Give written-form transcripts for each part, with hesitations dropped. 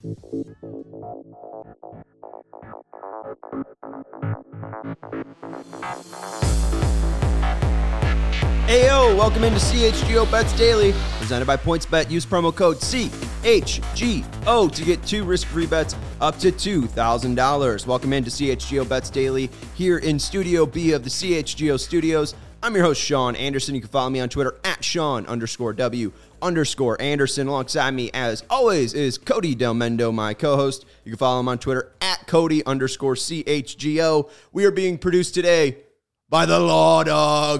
Heyo, welcome into CHGO Bets Daily, presented by PointsBet. Use promo code CHGO to get 2 risk-free bets up to $2,000. Welcome into CHGO Bets Daily here in Studio B of the CHGO Studios. I'm your host, Sean Anderson. You can follow me on Twitter at Sean_W_Anderson. Alongside me, as always, is Cody Del Mendo, my co-host. You can follow him on Twitter at Cody_CHGO. We are being produced today by the Law Dog.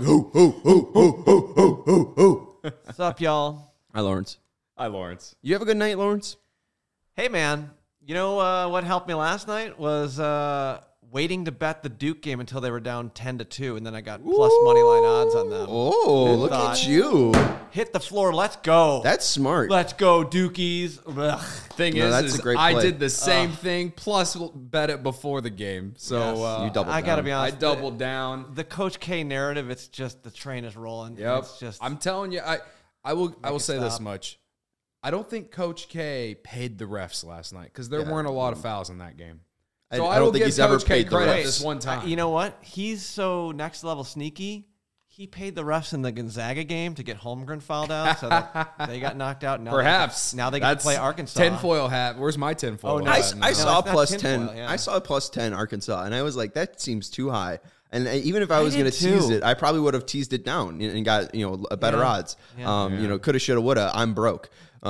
What's up, y'all? Hi, Lawrence. Hi, Lawrence. You have a good night, Lawrence? Hey, man. You know what helped me last night was waiting to bet the Duke game until they were down 10-2, and then I got plus money line odds on them. Oh, look at you. Hit the floor. Let's go. That's smart. Let's go, Dukies. Ugh. Thing that's a great play. I did the same thing, plus bet it before the game. So Yes. You doubled I got to down. be I honest. doubled down. The Coach K narrative, it's just the train is rolling. Yep. It's just, I'm telling you, I will say this stop. much. I don't think Coach K paid the refs last night because there weren't a lot of fouls in that game. So I don't think give he's ever Coach K paid the credit refs. this one time. you know what? He's so next level sneaky. He paid the refs in the Gonzaga game to get Holmgren fouled out, so that they got knocked out. Now Perhaps. now they get to play Arkansas. Tinfoil hat. Where's my tinfoil Oh, no. hat? I saw it's not plus tinfoil, 10. yeah. I saw plus 10 Arkansas, and I was like, that seems too high. And even if I was did going to tease too. it, I probably would have teased it down and got a better odds. Yeah. Coulda, shoulda, woulda. I'm broke.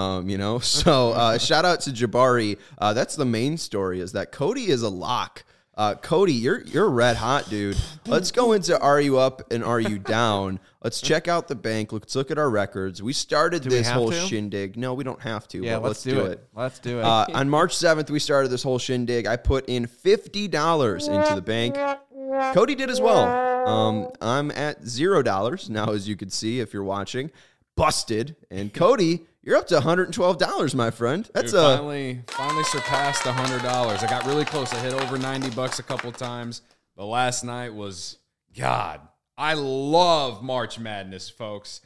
So shout out to Jabari. That's the main story, is that Cody is a lock. Cody, you're red hot, dude. Let's go into Are You Up and Are You Down? Let's check out the bank. Let's look at our records. We started Do we this have whole to? shindig. No, we don't have to. Yeah, but let's do it. Let's do it. On March 7th, we started this whole shindig. I put in $50 into the bank. Cody did as well. I'm at $0 now, as you can see if you're watching. Busted. And Cody, you're up to $112, my friend. That's Dude, finally surpassed $100. I got really close. I hit over $90 a couple times. The last night was, God, I love March Madness, folks.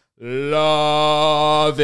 Love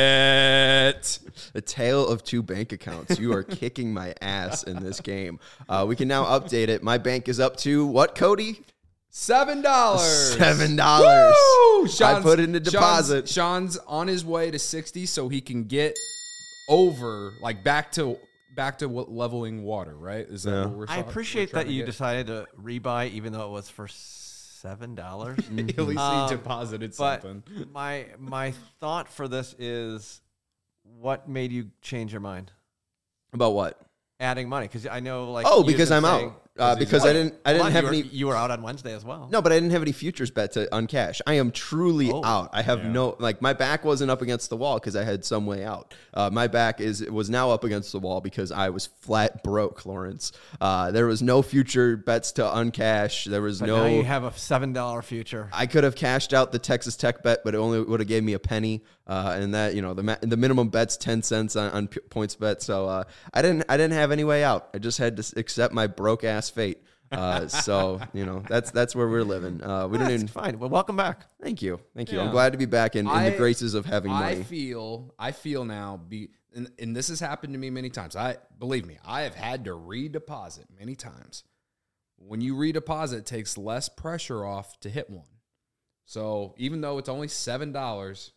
it. a tale of 2 bank accounts. You are kicking my ass in this game. We can now update it. My bank is up to what, Cody? $7. $7. Woo! I put in a deposit. Sean's on his way to 60, so he can get over, like back to leveling water. Right? Is that what we're? I appreciate that you decided to rebuy, even though it was for $7. At least he deposited But something. my thought for this is, what made you change your mind? About what? Adding money, because I know, like, Oh, you've because been I'm saying- out. Because I didn't have any. You were out on Wednesday as well. No, but I didn't have any futures bet to uncash. I am truly out. I have my back wasn't up against the wall because I had some way out. My back was now up against the wall because I was flat broke, Lawrence. There was no future bets to uncash. There was But no. now you have a $7 future. I could have cashed out the Texas Tech bet, but it only would have gave me a penny. And that, the minimum bet's 10 cents on points bet. So I didn't have any way out. I just had to accept my broke ass fate. So that's where we're living. We don't even. Fine. Well, welcome back. Thank you. Yeah. I'm glad to be back in the graces of having money. I feel now, and this has happened to me many times. Believe me, I have had to redeposit many times. When you redeposit, it takes less pressure off to hit one. So even though it's only $7,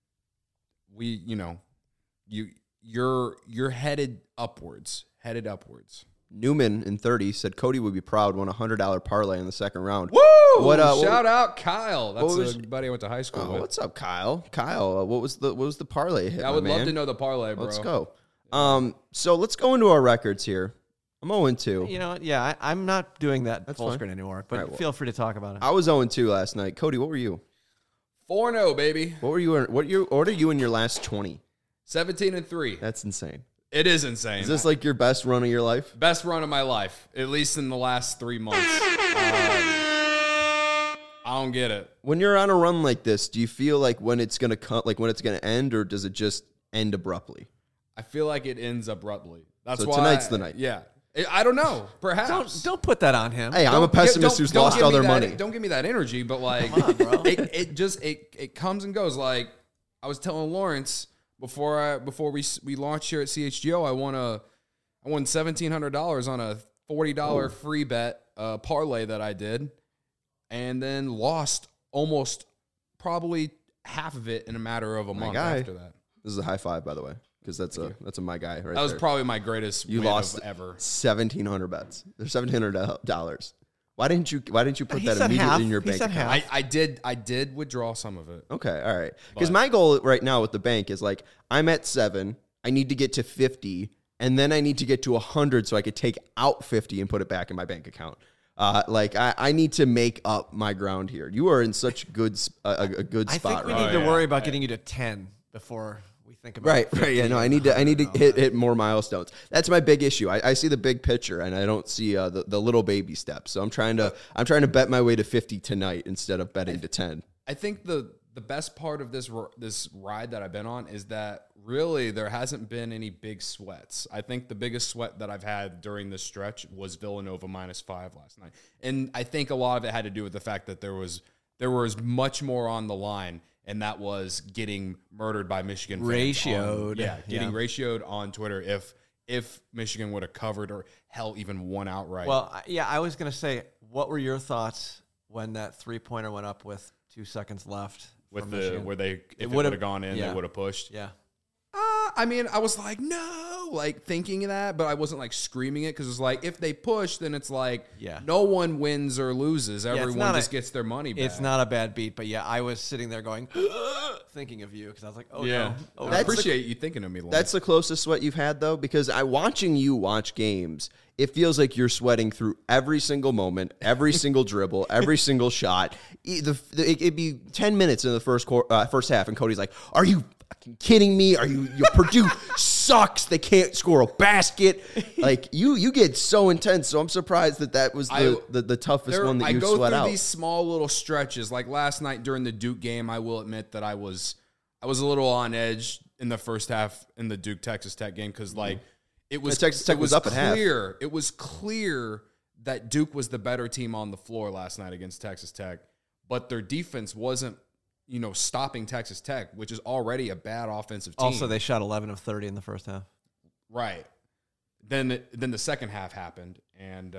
you're headed upwards. Newman in 30 said Cody would be proud, won a $100 parlay in the second round. Woo! Shout out Kyle. That's a buddy I went to high school with. What's up, Kyle? Kyle, what was the parlay hit? I would love to know the parlay, bro. Let's go. So let's go into our records here. I'm 0-2. You know what? Yeah, I'm not doing that full fine. screen anymore, but All right, well, feel free to talk about it. I was 0-2 last night. Cody, what were you? 4-0, baby. What are you in your last 20? 17-3. That's insane. It is insane. Is this like your best run of your life? Best run of my life, at least in the last 3 months. I don't get it. When you're on a run like this, do you feel like when it's gonna cut, like when it's gonna end, or does it just end abruptly? I feel like it ends abruptly. That's So why tonight's the night. Yeah. I don't know. Perhaps. Don't put that on him. Hey, I'm a pessimist who's Don't lost give all me their that- money. Don't give me that energy, but like, Come on, bro. it comes and goes. Like I was telling Lawrence, before we launched here at CHGO, I won $1,700 on a $40 free bet parlay that I did, and then lost almost probably half of it in a matter of a month after that. This is a high five, by the way, because that's a my guy right That was there. probably my greatest You win lost of ever. 1,700 bets. There's $1,700. Why didn't you put He that said immediately half. in your He bank said account? half. I did withdraw some of it. Okay, all right. Because But- my goal right now with the bank is like I'm at 7. I need to get to 50, and then I need to get to 100 so I could take out 50 and put it back in my bank account. I need to make up my ground here. You are in such a good I spot, think we right? need to worry about getting you to 10 before we think about Right. Yeah. No, I need to hit more milestones. That's my big issue. I see the big picture and I don't see the little baby steps. So I'm trying to bet my way to 50 tonight instead of betting to 10. I think the best part of this ride that I've been on is that really there hasn't been any big sweats. I think the biggest sweat that I've had during this stretch was Villanova -5 last night. And I think a lot of it had to do with the fact that there was much more on the line, and that was getting murdered by Michigan fans. Ratioed. Getting ratioed on Twitter if Michigan would have covered or hell even won outright. Well, I was going to say, what were your thoughts when that 3-pointer went up with 2 seconds left? with for the Michigan? where they if it would've- would have gone in, yeah. they would have pushed. Yeah. I mean, I was like, no, like thinking that, but I wasn't like screaming it because it's like if they push, then it's like no one wins or loses. Everyone just gets their money back. It's not a bad beat, but I was sitting there going, thinking of you because I was like, oh no. Oh, I no. appreciate you thinking of me. Lance. That's the closest sweat you've had, though, because watching you watch games, it feels like you're sweating through every single moment, every single dribble, every single shot. It'd be 10 minutes in the first half, and Cody's like, "Are you fucking kidding me? Purdue sucks. They can't score a basket." Like you get so intense. So I'm surprised that was the toughest one that you sweat I go out. through these small little stretches. Like last night during the Duke game, I will admit that I was a little on edge in the first half in the Duke Texas Tech game because it was Texas Tech was up at half. It was clear that Duke was the better team on the floor last night against Texas Tech, but their defense wasn't, stopping Texas Tech, which is already a bad offensive team. Also, they shot 11 of 30 in the first half. Right. Then the second half happened, and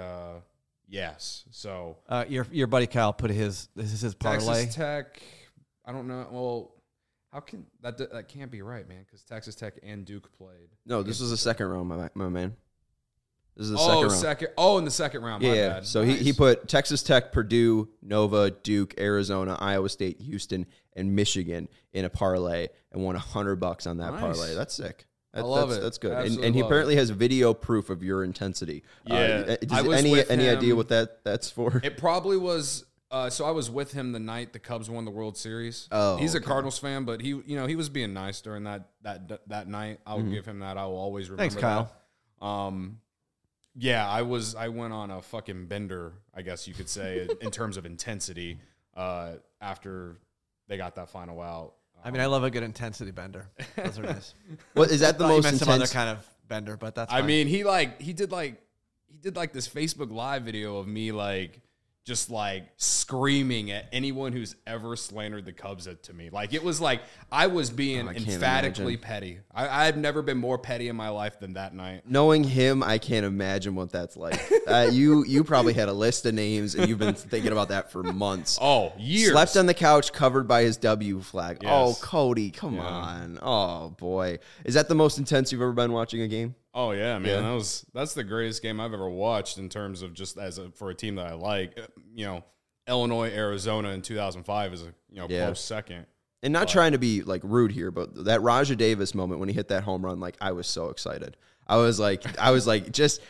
yes. So your buddy Kyle put his parlay. Texas Tech. I don't know. Well, how can that can't be right, man? Because Texas Tech and Duke played. No, this was the second round, my man. This is the second round. In the second round. Yeah, My yeah. bad. So Nice. he put Texas Tech, Purdue, Nova, Duke, Arizona, Iowa State, Houston, and Michigan in a parlay and won $100 on that Nice. parlay. That's sick. I love it. That's good. Absolutely And he love apparently has video proof of your intensity. Yeah. I was any with idea him. what that's for? It probably was. So I was with him the night the Cubs won the World Series. Oh, he's a okay. Cardinals fan, but he was being nice during that night. I'll Mm-hmm. give him that. I will always remember. Thanks, Kyle. That. Yeah, I went on a fucking bender, I guess you could say, in terms of intensity. After they got that final out. I mean, I love a good intensity bender. Those are nice. What is that the Thought you most meant some other intense? kind of bender, but that's I fine. mean, he did this Facebook Live video of me just screaming at anyone who's ever slandered the Cubs to me. It was like I was being I can't emphatically imagine. petty. I've never been more petty in my life than that night. Knowing him, I can't imagine what that's like. You probably had a list of names, and you've been thinking about that for months. Oh, years. Slept on the couch covered by his W flag. Yes. Oh, Cody, come on. Oh, boy. Is that the most intense you've ever been watching a game? Oh yeah, man. Yeah. That's the greatest game I've ever watched in terms of just for a team that I like. Illinois, Arizona in 2005 is a close second. And not trying to be rude here, but that Raja Davis moment when he hit that home run, I was so excited. I was like, just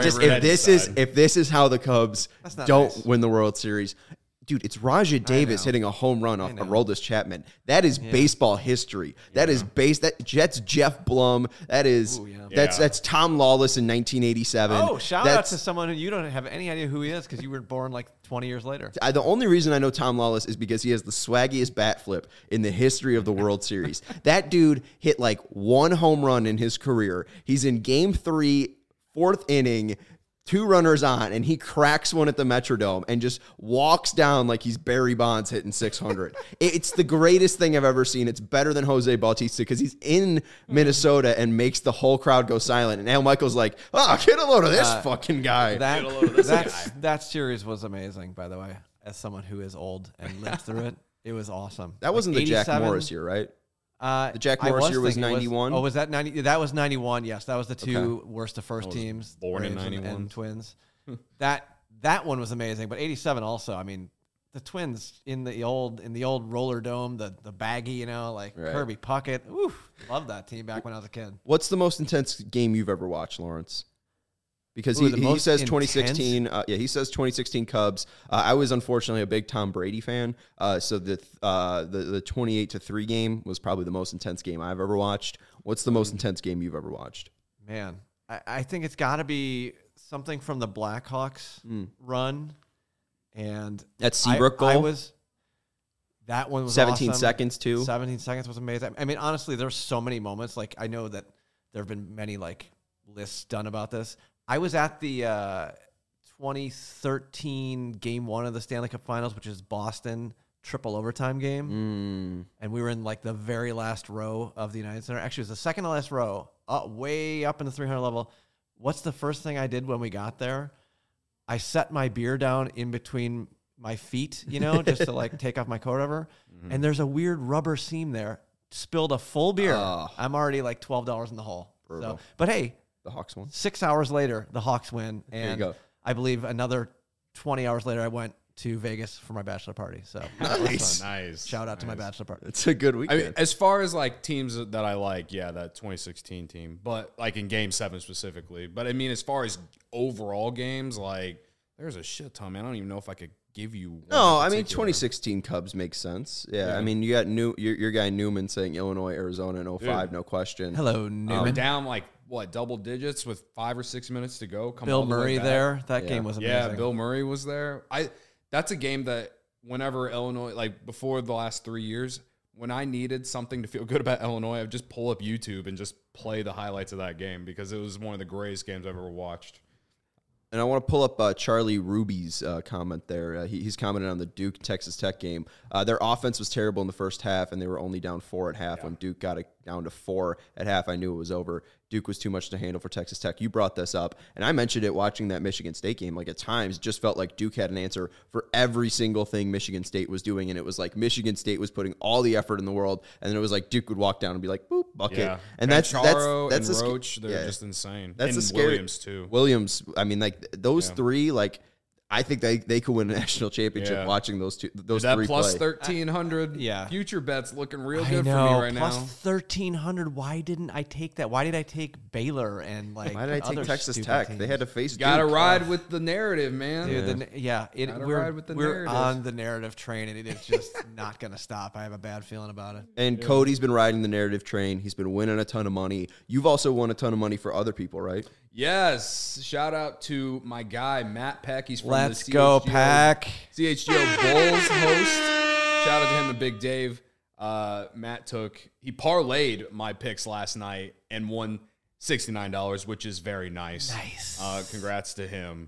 if this is how the Cubs not don't nice. win the World Series. Dude, it's Raja Davis hitting a home run off Aroldis Chapman. That is baseball history. That is Jets Jeff Blum. That is that's Tom Lawless in 1987. oh, shout out to someone who you don't have any idea who he is because you were born 20 years later. The only reason I know Tom Lawless is because he has the swaggiest bat flip in the history of the World Series. That dude hit one home run in his career. He's in Game 3, fourth inning. 2 runners on, and he cracks one at the Metrodome and just walks down like he's Barry Bonds hitting 600. It's the greatest thing I've ever seen. It's better than Jose Bautista because he's in Minnesota and makes the whole crowd go silent. And Al Michaels like, oh, get a load of this fucking guy. That series was amazing, by the way, as someone who is old and lived through it. It was awesome. That wasn't the Jack Morris year, right? The Jack Morris year was 91. Was that 90? That was 91. Yes, that was the 2 worst of first teams. Born in Braves 91. and Twins. that one was amazing, but 87 also. I mean, the Twins in the old Roller Dome, the baggy, like Kirby Puckett. Oof, loved that team back when I was a kid. What's the most intense game you've ever watched, Lawrence? Because he says 2016. He says 2016 Cubs. I was unfortunately a big Tom Brady fan. So the 28-3 game was probably the most intense game I've ever watched. What's the most intense game you've ever watched? Man, I think it's got to be something from the Blackhawks run. And that Seabrook goal. That one was 17 awesome. seconds too. 17 seconds was amazing. I mean, honestly, there's so many moments. Like I know that there have been many lists done about this. I was at the 2013 Game 1 of the Stanley Cup Finals, which is Boston triple overtime game. And we were in the very last row of the United Center. Actually, it was the second to last row, way up in the 300 level. What's the first thing I did when we got there? I set my beer down in between my feet, just to take off my coat over. And there's a weird rubber seam there. Spilled a full beer. I'm already $12 in the hole. So, but hey, the Hawks won. 6 hours later, the Hawks win. And there you go. I believe another 20 hours later, I went to Vegas for my bachelor party. So nice. Shout out to my bachelor party. It's a good weekend. I mean, as far as teams that I like, that 2016 team, but in Game 7 specifically. But I mean, as far as overall games, there's a shit ton, man. I don't even know if I could give you one. No, I mean 2016 Cubs makes sense. Yeah. I mean you got your guy Newman saying Illinois, Arizona in 05, no question. Hello, Newman. Down double digits with 5 or 6 minutes to go. Bill Murray there. That game was amazing. Yeah, Bill Murray was there. That's a game that whenever Illinois, before the last 3 years, when I needed something to feel good about Illinois, I would just pull up YouTube and just play the highlights of that game because it was one of the greatest games I've ever watched. And I want to pull up Charlie Ruby's comment there. He's commented on the Duke Texas Tech game. Their offense was terrible in the first half, and they were only down 4 at half. When Duke got it down to 4 at half, I knew it was over. Duke was too much to handle for Texas Tech. You brought this up, and I mentioned it watching that Michigan State game. At times, it just felt like Duke had an answer for every single thing Michigan State was doing, and it was Michigan State was putting all the effort in the world, and then it was Duke would walk down and be boop, bucket. Yeah. And that's Roach, they're just insane. That's and scary. Williams, too. Williams, I mean, those three, I think they could win a national championship watching those three plus play. 1,300 future bets looking real good for me right now. Plus 1,300. Why didn't I take that? Why did I take Baylor and why did I take Texas Tech? Teams? They had to face Gotta ride with the narrative, man. Dude, we're narrative. on the narrative train, and it is just not going to stop. I have a bad feeling about it. And Cody's been riding the narrative train. He's been winning a ton of money. You've also won a ton of money for other people, right? Yes. Shout out to my guy, Matt Peck. He's from Let's the go, Pack. CHGO Bulls host. Shout out to him and Big Dave. Matt he parlayed my picks last night and won $69, which is very nice. Nice. Congrats to him.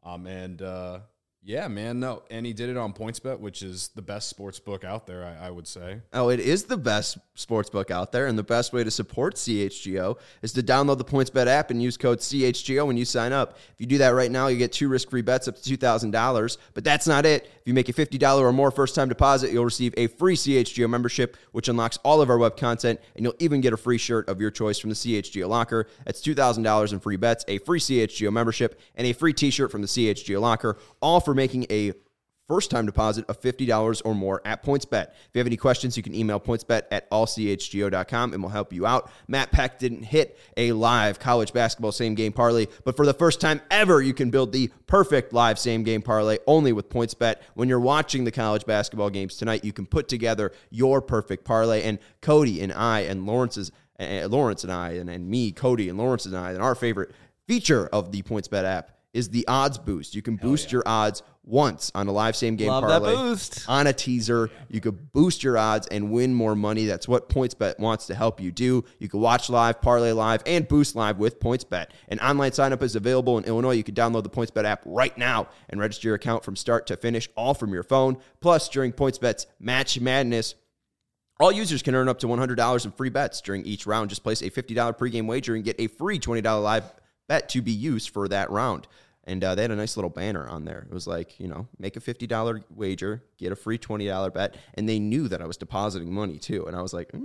Yeah, man, no. And he did it on PointsBet, which is the best sports book out there, I would say. Oh, it is the best sports book out there, and the best way to support CHGO is to download the PointsBet app and use code CHGO when you sign up. If you do that right now, you get 2 risk-free bets up to $2,000, but that's not it. If you make a $50 or more first-time deposit, you'll receive a free CHGO membership, which unlocks all of our web content, and you'll even get a free shirt of your choice from the CHGO locker. That's $2,000 in free bets, a free CHGO membership, and a free t-shirt from the CHGO locker, all for making a first-time deposit of $50 or more at PointsBet. If you have any questions, you can email pointsbet@allchgo.com and we'll help you out. Matt Peck didn't hit a live college basketball same-game parlay, but for the first time ever, you can build the perfect live same-game parlay only with PointsBet. When you're watching the college basketball games tonight, you can put together your perfect parlay, and Cody and I and Lawrence and I and me, Cody and Lawrence and I, and our favorite feature of the PointsBet app is the odds boost. You can boost your odds once on a live same game Love that parlay boost. on a teaser. You could boost your odds and win more money. That's what PointsBet wants to help you do. You can watch live, parlay live, and boost live with PointsBet. An online sign-up is available in Illinois. You can download the PointsBet app right now and register your account from start to finish, all from your phone. Plus, during PointsBet's Match Madness, all users can earn up to $100 in free bets during each round. Just place a $50 pregame wager and get a free $20 live bet to be used for that round. And they had a nice little banner on there. It was like, make a $50 wager, get a free $20 bet. And they knew that I was depositing money too. And I was like,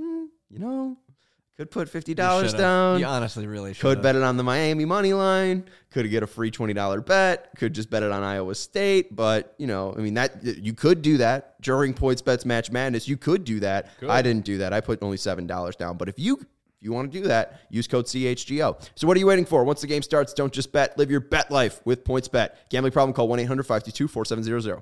could put $50 down. You honestly really should. Could bet it on the Miami money line. Could get a free $20 bet. Could just bet it on Iowa State. But, that you could do that during PointsBet's Match Madness. You could do that. Good. I didn't do that. I put only $7 down. But if you want to do that, use code CHGO. So what are you waiting for? Once the game starts, don't just bet. Live your bet life with PointsBet. Gambling problem, call 1-800-522-4700.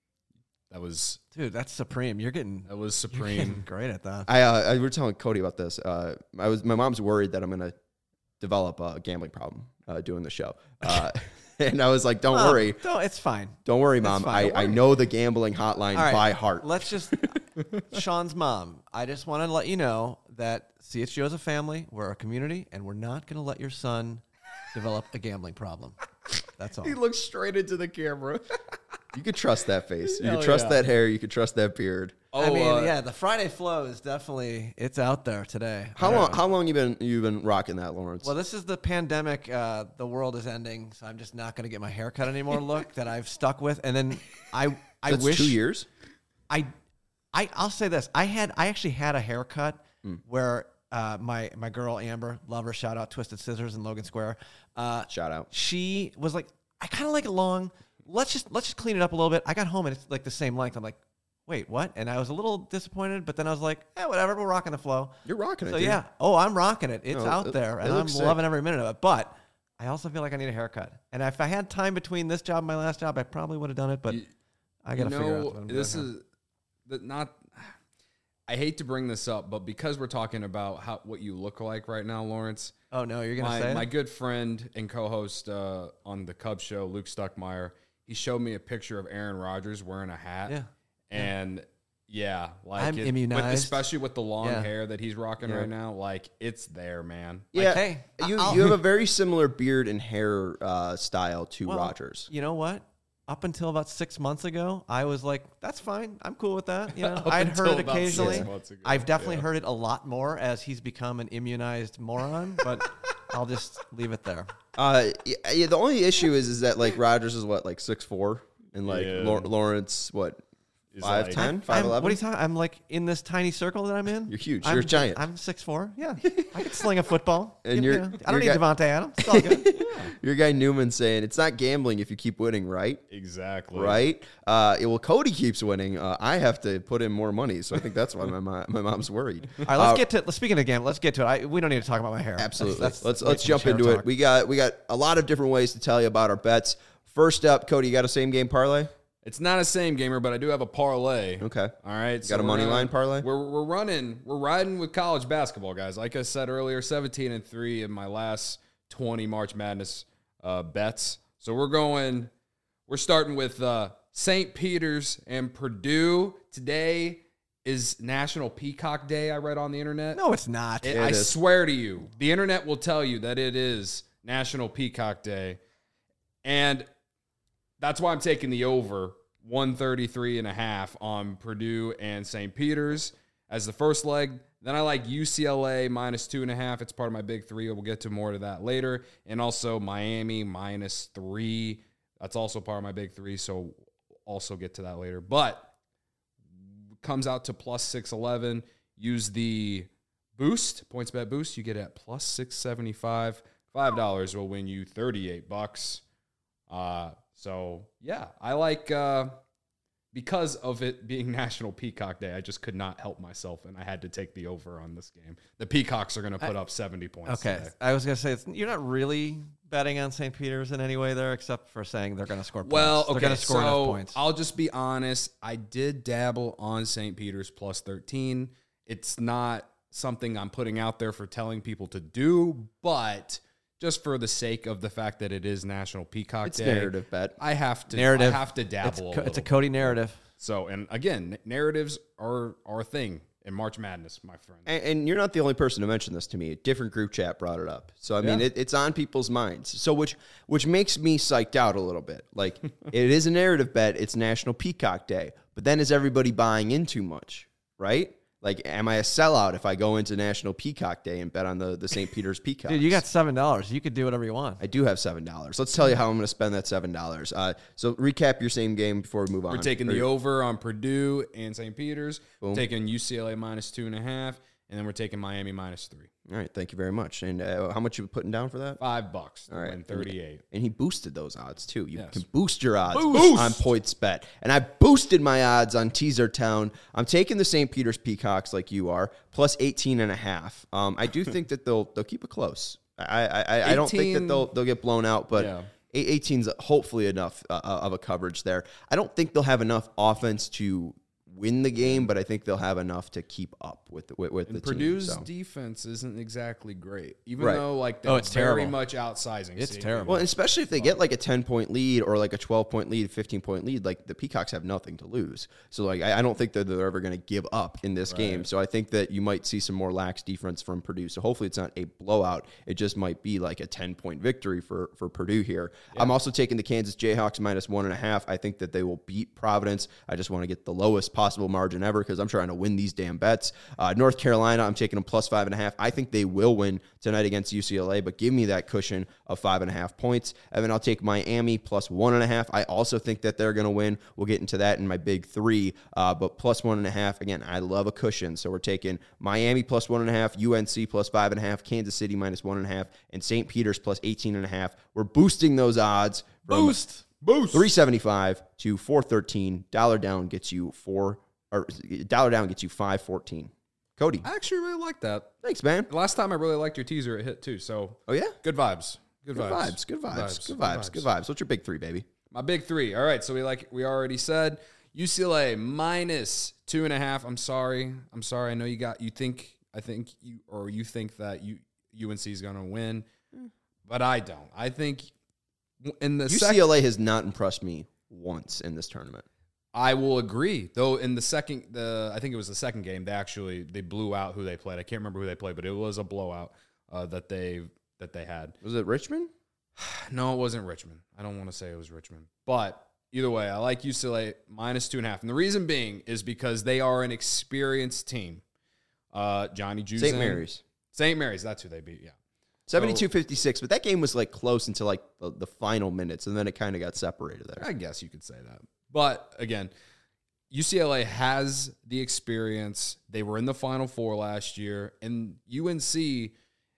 Dude, that's supreme. That was supreme. Great at that. I were telling Cody about this. My mom's worried that I'm going to develop a gambling problem doing the show. And I was like, don't worry. It's fine. Don't worry, Mom. I know the gambling hotline by heart. Let's just, Sean's mom, I just want to let you know that CHGO is a family, we're a community, and we're not going to let your son develop a gambling problem. That's all. He looks straight into the camera. You could trust that face. You Hell could trust yeah. that hair. You could trust that beard. I mean, the Friday flow is definitely, it's out there today. How long you been rocking that, Lawrence? Well, this is the pandemic. The world is ending, so I'm just not going to get my hair cut anymore look that I've stuck with. And then I That's wish 2 years. I'll say this. I actually had a haircut where my girl Amber, love her, shout out Twisted Scissors in Logan Square. Shout out. She was like, I kind of like it long. Let's just clean it up a little bit. I got home and it's like the same length. I'm like, wait, what? And I was a little disappointed, but then I was like, whatever, we're rocking the flow. You're rocking it. So dude. yeah, I'm rocking it. It's out there, and I'm looks sick. loving every minute of it. But I also feel like I need a haircut. And if I had time between this job and my last job, I probably would have done it. But I got to figure out what I'm doing. I hate to bring this up, but because we're talking about what you look like right now, Lawrence. Oh no, you're gonna say it? My good friend and co-host on the Cubs show, Luke Stuckmeyer, he showed me a picture of Aaron Rodgers wearing a hat. Yeah. And I'm immunized. especially with the long hair that he's rocking right now. Like, it's there, man. Yeah, Like, hey, you have a very similar beard and hair style to Rodgers. You know what? Up until about 6 months ago, I was like, that's fine. I'm cool with that. You know, Up I'd until heard it about occasionally. 6 months ago, I've definitely heard it a lot more as he's become an immunized moron, but I'll just leave it there. The only issue is that like Rodgers is what, like 6'4", and like Yeah. Lawrence what, He's 5'10", What 5'11"? are you talking? I'm like in this tiny circle that I'm in. You're huge. You're a giant. I'm 6'4". Yeah, I can sling a football. And You you're- know, I don't need you're Devontae Adams. It's all good. Your guy Newman saying it's not gambling if you keep winning, right? Exactly. Right? Well, Cody keeps winning. I have to put in more money, so I think that's why my mom's worried. All right, let's get to. Speaking of gambling, let's get to it. We don't need to talk about my hair. Absolutely. Let's Let's jump into it. We got a lot of different ways to tell you about our bets. First up, Cody, you got a same game parlay? It's not a same gamer, but I do have a parlay. Okay. All right. Got a money line parlay? We're riding with college basketball, guys. Like I said earlier, 17-3 in my last 20 March Madness bets. So we're starting with St. Peter's and Purdue. Today is National Peacock Day, I read on the internet. No, it's not. I swear to you, the internet will tell you that it is National Peacock Day. And that's why I'm taking the over 133.5 on Purdue and St. Peter's as the first leg. Then I like UCLA -2.5. It's part of my big three. We'll get to more of that later. And also Miami -3. That's also part of my big three. So also get to that later. But comes out to +611. Use the boost, PointsBet boost. You get it at +675. $5 will win you $38. So yeah, I like, because of it being National Peacock Day, I just could not help myself, and I had to take the over on this game. The Peacocks are going to put up 70 points Okay, today. I was going to say, you're not really betting on St. Peter's in any way there, except for saying they're going to score points. Well, They're okay, going to score enough so points. I'll just be honest. I did dabble on St. Peter's +13. It's not something I'm putting out there for telling people to do, but just for the sake of the fact that it is National Peacock It's Day. narrative bet. I have to Narrative. I have to dabble. It's a Cody narrative. So, and again, narratives are our thing in March Madness, my friend. And you're not the only person to mention this to me. A different group chat brought it up. So, I mean, Yeah. it's on people's minds. So, which makes me psyched out a little bit. Like, it is a narrative bet. It's National Peacock Day. But then is everybody buying in too much, right? Like, am I a sellout if I go into National Peacock Day and bet on the St. Peter's Peacocks? Dude, you got $7. You could do whatever you want. I do have $7. Let's tell you how I'm going to spend that $7. So recap your same game before we move on. We're taking the over on Purdue and St. Peter's. Boom. Taking UCLA -2.5, and then we're taking Miami -3. All right, thank you very much. And how much you putting down for that? $5 to All right. win 38. And he boosted those odds too. You Yes. can boost your odds Boost! on PointsBet. And I boosted my odds on Teaser Town. I'm taking the St. Peter's Peacocks like you are, plus 18.5. I do think that they'll keep it close. I don't think that 18 they'll get blown out, but Yeah. 18's hopefully enough of a coverage there. I don't think they'll have enough offense to win the game, but I think they'll have enough to keep up with the team. Purdue's So. defense isn't exactly great, even Right. though like Oh, it's that's very terrible. much outsizing. It's St. terrible. Well, especially if they get like a 10-point lead or like a 12-point lead, 15-point lead, like the Peacocks have nothing to lose. So like I don't think that they're ever going to give up in this game. So I think that you might see some more lax defense from Purdue. So hopefully it's not a blowout. It just might be like a 10-point victory for Purdue here. Yeah. I'm also taking the Kansas Jayhawks -1.5. I think that they will beat Providence. I just want to get the lowest possible margin ever because I'm trying to win these damn bets. North Carolina, I'm taking them +5.5. I think they will win tonight against UCLA, but give me that cushion of 5.5 points. And then I'll take Miami +1.5. I also think that they're going to win. We'll get into that in my big three, but +1.5. Again, I love a cushion. So we're taking Miami +1.5, UNC +5.5, Kansas City -1.5, and St. Peter's +18.5. We're boosting those odds from Boost. 375 to 413. Dollar down gets you $5.14. Cody, I actually really like that. thanks, man. Last time I really liked your teaser, it hit too. So Oh, yeah? good vibes. Good vibes. Good vibes. What's your big three, baby? My big three. All right. So we already said UCLA -2.5. I'm sorry. I know you think that UNC is going to win, but I don't. I think in the UCLA has not impressed me once in this tournament. I will agree. Though in I think it was the second game, they blew out who they played. I can't remember who they played, but it was a blowout that they had. Was it Richmond? No, it wasn't Richmond. I don't want to say it was Richmond. But either way, I like UCLA -2.5. And the reason being is because they are an experienced team. Johnny Juzang. St. Mary's, that's who they beat, yeah. 72-56, but that game was like close until like the final minutes, and then it kind of got separated there. I guess you could say that. But again, UCLA has the experience. They were in the Final Four last year. And UNC,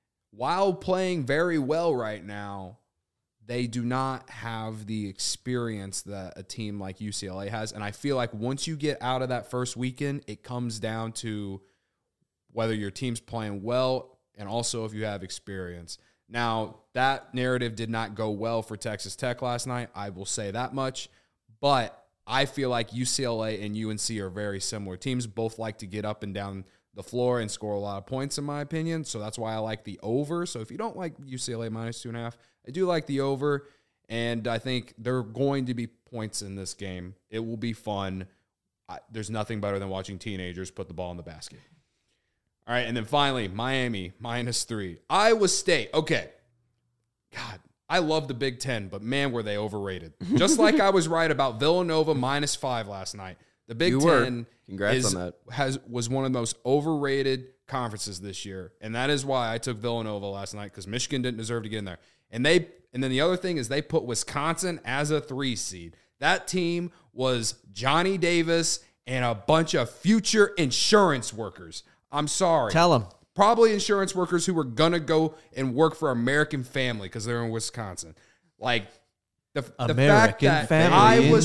while playing very well right now, they do not have the experience that a team like UCLA has. And I feel like once you get out of that first weekend, it comes down to whether your team's playing well and also if you have experience. Now, that narrative did not go well for Texas Tech last night. I will say that much. But I feel like UCLA and UNC are very similar teams. Both like to get up and down the floor and score a lot of points, in my opinion. So that's why I like the over. So if you don't like UCLA -2.5, I do like the over. And I think there are going to be points in this game. It will be fun. There's nothing better than watching teenagers put the ball in the basket. All right, and then finally, Miami -3. Iowa State. Okay. God, I love the Big Ten, but man, were they overrated. Just like I was right about Villanova -5 last night. The Big Ten Congrats on that. was one of the most overrated conferences this year, and that is why I took Villanova last night because Michigan didn't deserve to get in there. And then the other thing is they put Wisconsin as a 3 seed. That team was Johnny Davis and a bunch of future insurance workers. I'm sorry. Tell them. Probably insurance workers who were going to go and work for American Family because they're in Wisconsin. Like, the fact that Iowa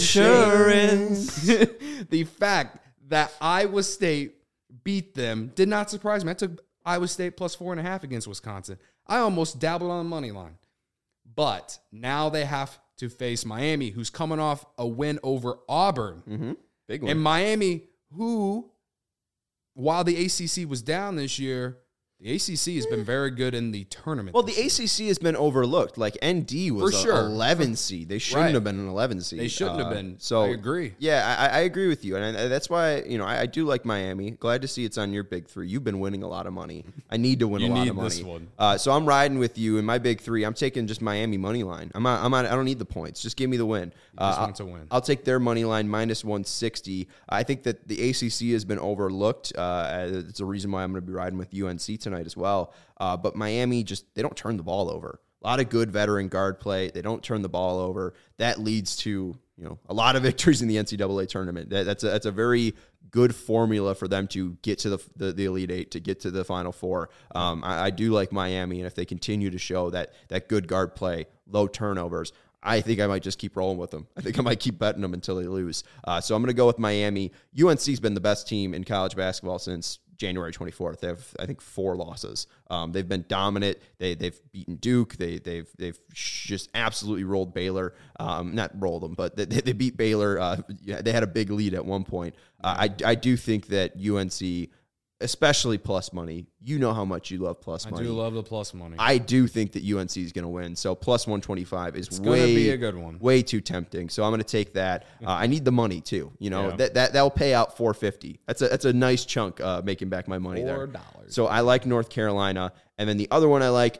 State, the fact that Iowa State beat them did not surprise me. I took Iowa State +4.5 against Wisconsin. I almost dabbled on the money line. But now they have to face Miami, who's coming off a win over Auburn. Mm-hmm. Big one. And Miami, who, while the ACC was down this year, The ACC has been very good in the tournament. Well, the ACC has been overlooked. Like ND was For sure. 11 seed. They shouldn't have been an 11 seed. They shouldn't have been. So I agree. Yeah, I agree with you, and that's why I do like Miami. Glad to see it's on your big three. You've been winning a lot of money. I need to win You a lot need of money. this one. So I'm riding with you in my big three. I'm taking just Miami money line. I don't need the points. Just give me the win. Just want to win. I'll take their money line minus 160. I think that the ACC has been overlooked. It's a reason why I'm going to be riding with UNC tonight as well. But Miami they don't turn the ball over. A lot of good veteran guard play. They don't turn the ball over. That leads to a lot of victories in the NCAA tournament. That's a very good formula for them to get to the Elite Eight, to get to the Final Four. I do like Miami, and if they continue to show that good guard play, low turnovers, I think I might just keep rolling with them. I think I might keep betting them until they lose. So I'm going to go with Miami. UNC's been the best team in college basketball since January 24th. They have, I think, 4 losses. They've been dominant. They've beaten Duke. They've just absolutely rolled Baylor. Not rolled them, but they beat Baylor. They had a big lead at one point. I do think that UNC, especially plus money, you know how much you love plus money. I do love the plus money. I do think that UNC is going to win. So plus 125 is going to be a good one. Way too tempting. So I'm going to take that. I need the money too. Yeah. That'll pay out $450. That's a nice chunk making back my money there. $4. So I like North Carolina, and then the other one I like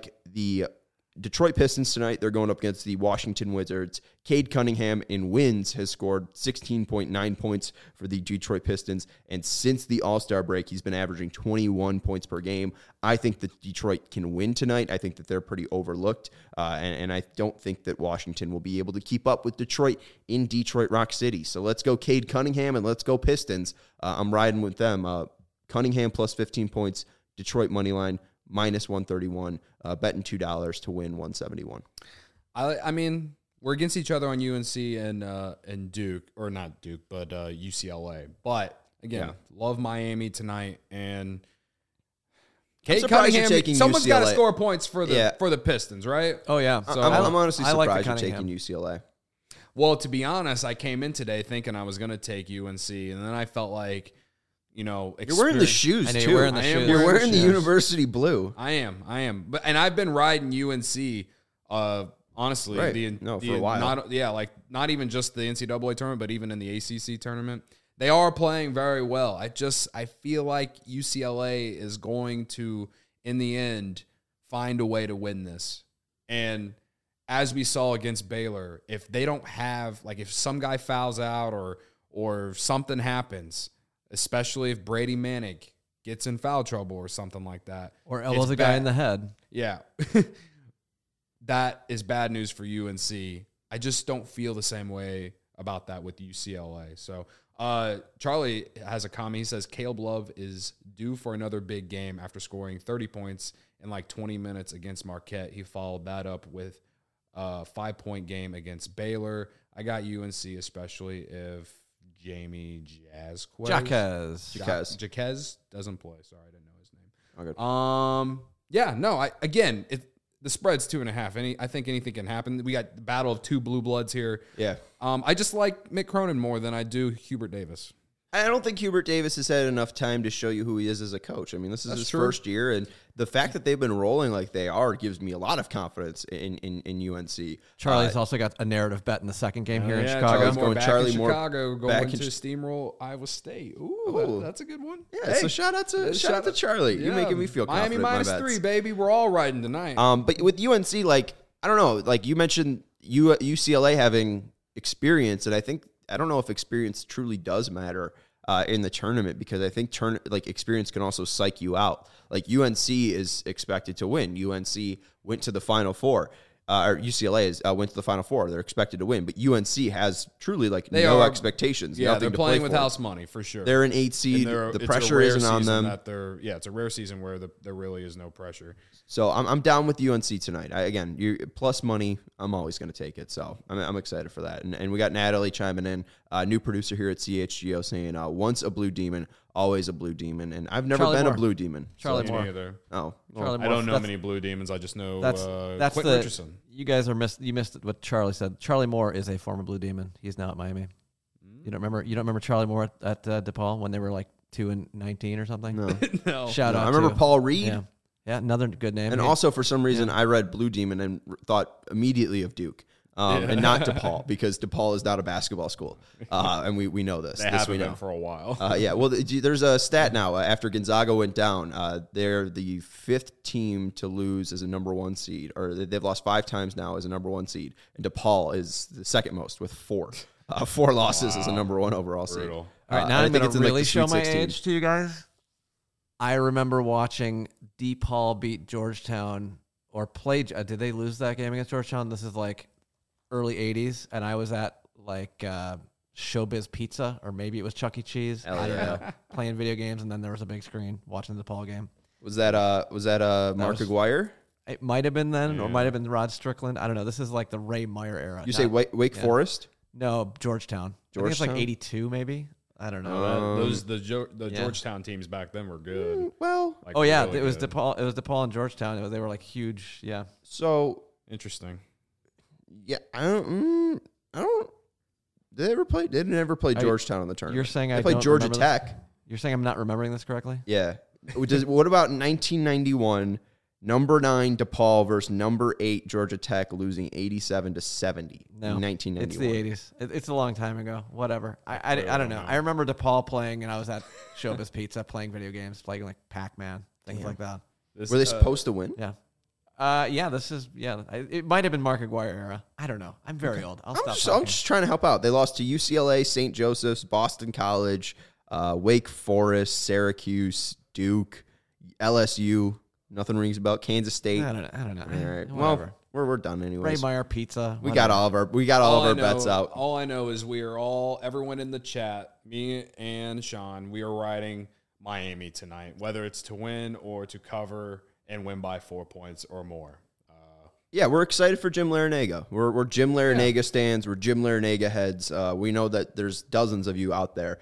the Detroit Pistons tonight. They're going up against the Washington Wizards. Cade Cunningham in wins has scored 16.9 points for the Detroit Pistons. And since the All-Star break, he's been averaging 21 points per game. I think that Detroit can win tonight. I think that they're pretty overlooked. And I don't think that Washington will be able to keep up with Detroit in Detroit Rock City. So let's go Cade Cunningham and let's go Pistons. I'm riding with them. Cunningham plus 15 points, Detroit money line, minus 131, betting $2 to win 171. I mean, we're against each other on UNC and Duke, or not Duke, but UCLA. But again, love Miami tonight, and Cade Cunningham. Someone's got to score points for the Pistons, right? Oh yeah. So I'm honestly surprised like you're taking UCLA. Well, to be honest, I came in today thinking I was going to take UNC, and then I felt like, you're wearing the shoes too. You're wearing the shoes. You're wearing the university blue. I am. And I've been riding UNC. Honestly, right. For a while. Not even just the NCAA tournament, but even in the ACC tournament, they are playing very well. I feel like UCLA is going to, in the end, find a way to win this. And as we saw against Baylor, if they don't have, if some guy fouls out or something happens, especially if Brady Manick gets in foul trouble or something like that. Or elbows a guy in the head. Yeah. That is bad news for UNC. I just don't feel the same way about that with UCLA. So Charlie has a comment. He says, Caleb Love is due for another big game after scoring 30 points in 20 minutes against Marquette. He followed that up with a 5-point game against Baylor. I got UNC, especially if Jamie Jaquez doesn't play. Sorry, I didn't know his name. Okay. The spread's 2.5. I think anything can happen. We got the battle of 2 blue bloods here. Yeah. I just like Mick Cronin more than I do Hubert Davis. I don't think Hubert Davis has had enough time to show you who he is as a coach. I mean, this is his first year, and the fact that they've been rolling like they are gives me a lot of confidence in UNC. Charlie's also got a narrative bet in the second game here in Chicago. Charlie Moore going to steamroll Iowa State. Ooh, that's a good one. Yeah, so shout out to Charlie. You're making me feel confident. Miami -3, baby. We're all riding tonight. But with UNC, I don't know. You mentioned UCLA having experience, and I don't know if experience truly does matter in the tournament, because I think experience can also psych you out. UNC is expected to win. UNC went to the Final Four. Or UCLA went to the Final Four. They're expected to win, but UNC has truly no expectations. Yeah, they're playing with for. house money for sure. They're an 8 seed. The pressure isn't on them. It's a rare season where there really is no pressure. So I'm down with UNC tonight. Plus money, I'm always going to take it. So I'm excited for that. And we got Natalie chiming in, new producer here at CHGO, saying once a blue demon, always a blue demon. And I've never been a blue demon. Charlie Moore. Either. Oh, well, I don't know many blue demons. I just know that's Quentin Richardson. You guys you missed what Charlie said. Charlie Moore is a former blue demon. He's now at Miami. You don't remember Charlie Moore at DePaul when they were 2-19 or something. No. No. Shout out. I remember to- Paul Reed. Yeah, yeah, another good name. And Yeah. also, for some reason, I read Blue Demon and thought immediately of Duke. And not DePaul, because DePaul is not a basketball school. And we know this. They This haven't we know. been for a while. Yeah, well, there's a stat now. After Gonzaga went down, they're the 5th team to lose as a number 1 seed, or they've lost 5 times now as a number 1 seed. And DePaul is the second most with 4. 4 losses as a number 1 overall seed. Brutal. All right, now I I'm think going it's to in, like, really the show Sweet my 16. age to you guys. I remember watching DePaul beat Georgetown or play. Did they lose that game against Georgetown? This is like early 80s, and I was at like Showbiz Pizza, or maybe it was Chuck E. Cheese. Hell I don't yeah. know. Playing video games, and then there was a big screen watching the DePaul game. Was that Mark was- Aguirre? It might have been then, or might have been Rod Strickland. I don't know. This is like the Ray Meyer era. You say Wake yeah. Forest? No, Georgetown. I think it's like Georgetown? 82, maybe. I don't know. The yeah. Georgetown teams back then were good. Well, Like, Oh yeah, really it was good. DePaul. It was DePaul and Georgetown. They were like huge. Yeah. so Interesting. yeah, I don't. Did they ever play? They never play Georgetown in the tournament. You're saying they I played don't Georgia remember Tech. You're saying I'm not remembering this correctly? Yeah. What about 1991? Number 9 DePaul versus number 8 Georgia Tech, losing 87-70 No, in 1991. it's the 80s. It's a long time ago. Whatever. I don't know. I remember DePaul playing, and I was at Showbiz Pizza playing video games, playing like Pac-Man, things like that. This, Were they supposed to win? Yeah. This is it might have been Mark Aguirre era. I don't know. I'm very old. I'll stop I'm talking. just trying to help out. They lost to UCLA, St. Joseph's, Boston College, Wake Forest, Syracuse, Duke, LSU. Nothing rings about Kansas State. I don't know. All right. Whatever. Well, we're done Ray anyways. Meyer Pizza. We got all of our bets out. All I know is everyone in the chat, me and Sean, we are riding Miami tonight, whether it's to win or to cover and win by 4 points or more. Yeah, we're excited for Jim Larinaga. We're Jim Larinaga stands. We're Jim Larinaga heads. We know that there's dozens of you out there.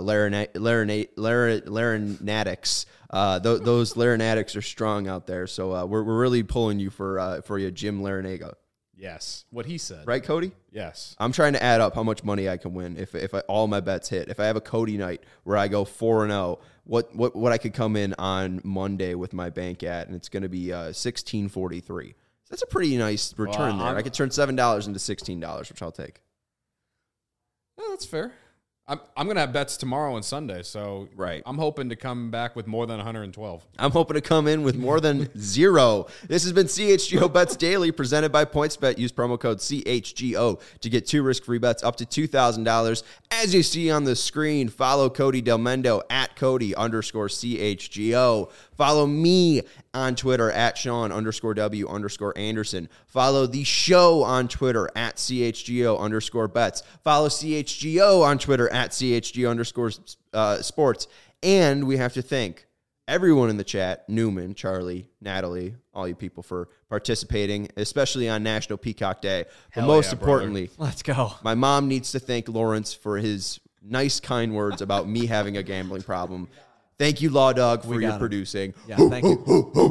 Larinatics. Those Larinatics are strong out there. So we're really pulling you for you, Jim Larinaga. Yes, what he said. Right, Cody? Yes. I'm trying to add up how much money I can win if all my bets hit. If I have a Cody night where I go 4-0, what I could come in on Monday with my bank at, and it's going to be $16.43. That's a pretty nice return there. I could turn $7 into $16, which I'll take. Yeah, that's fair. I'm going to have bets tomorrow and Sunday, so Right. I'm hoping to come back with more than 112. I'm hoping to come in with more than 0. This has been CHGO Bets Daily, presented by PointsBet. Use promo code CHGO to get 2 risk-free bets up to $2,000. As you see on the screen, follow Cody Del Mendo at Cody_CHGO. Follow me on Twitter at Sean_W_Anderson. Follow the show on Twitter at CHGO_bets. Follow CHGO on Twitter at CHGO_sports. And we have to thank everyone in the chat, Newman, Charlie, Natalie, all you people for participating, especially on National Peacock Day. But Hell most yeah, importantly, Let's go. my mom needs to thank Lawrence for his nice, kind words about me having a gambling problem. Thank you, Law Dog, for your him. producing. Yeah, thank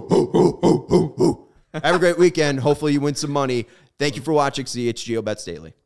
you. Have a great weekend. Hopefully you win some money. Thank you for watching CHGO Bets Daily.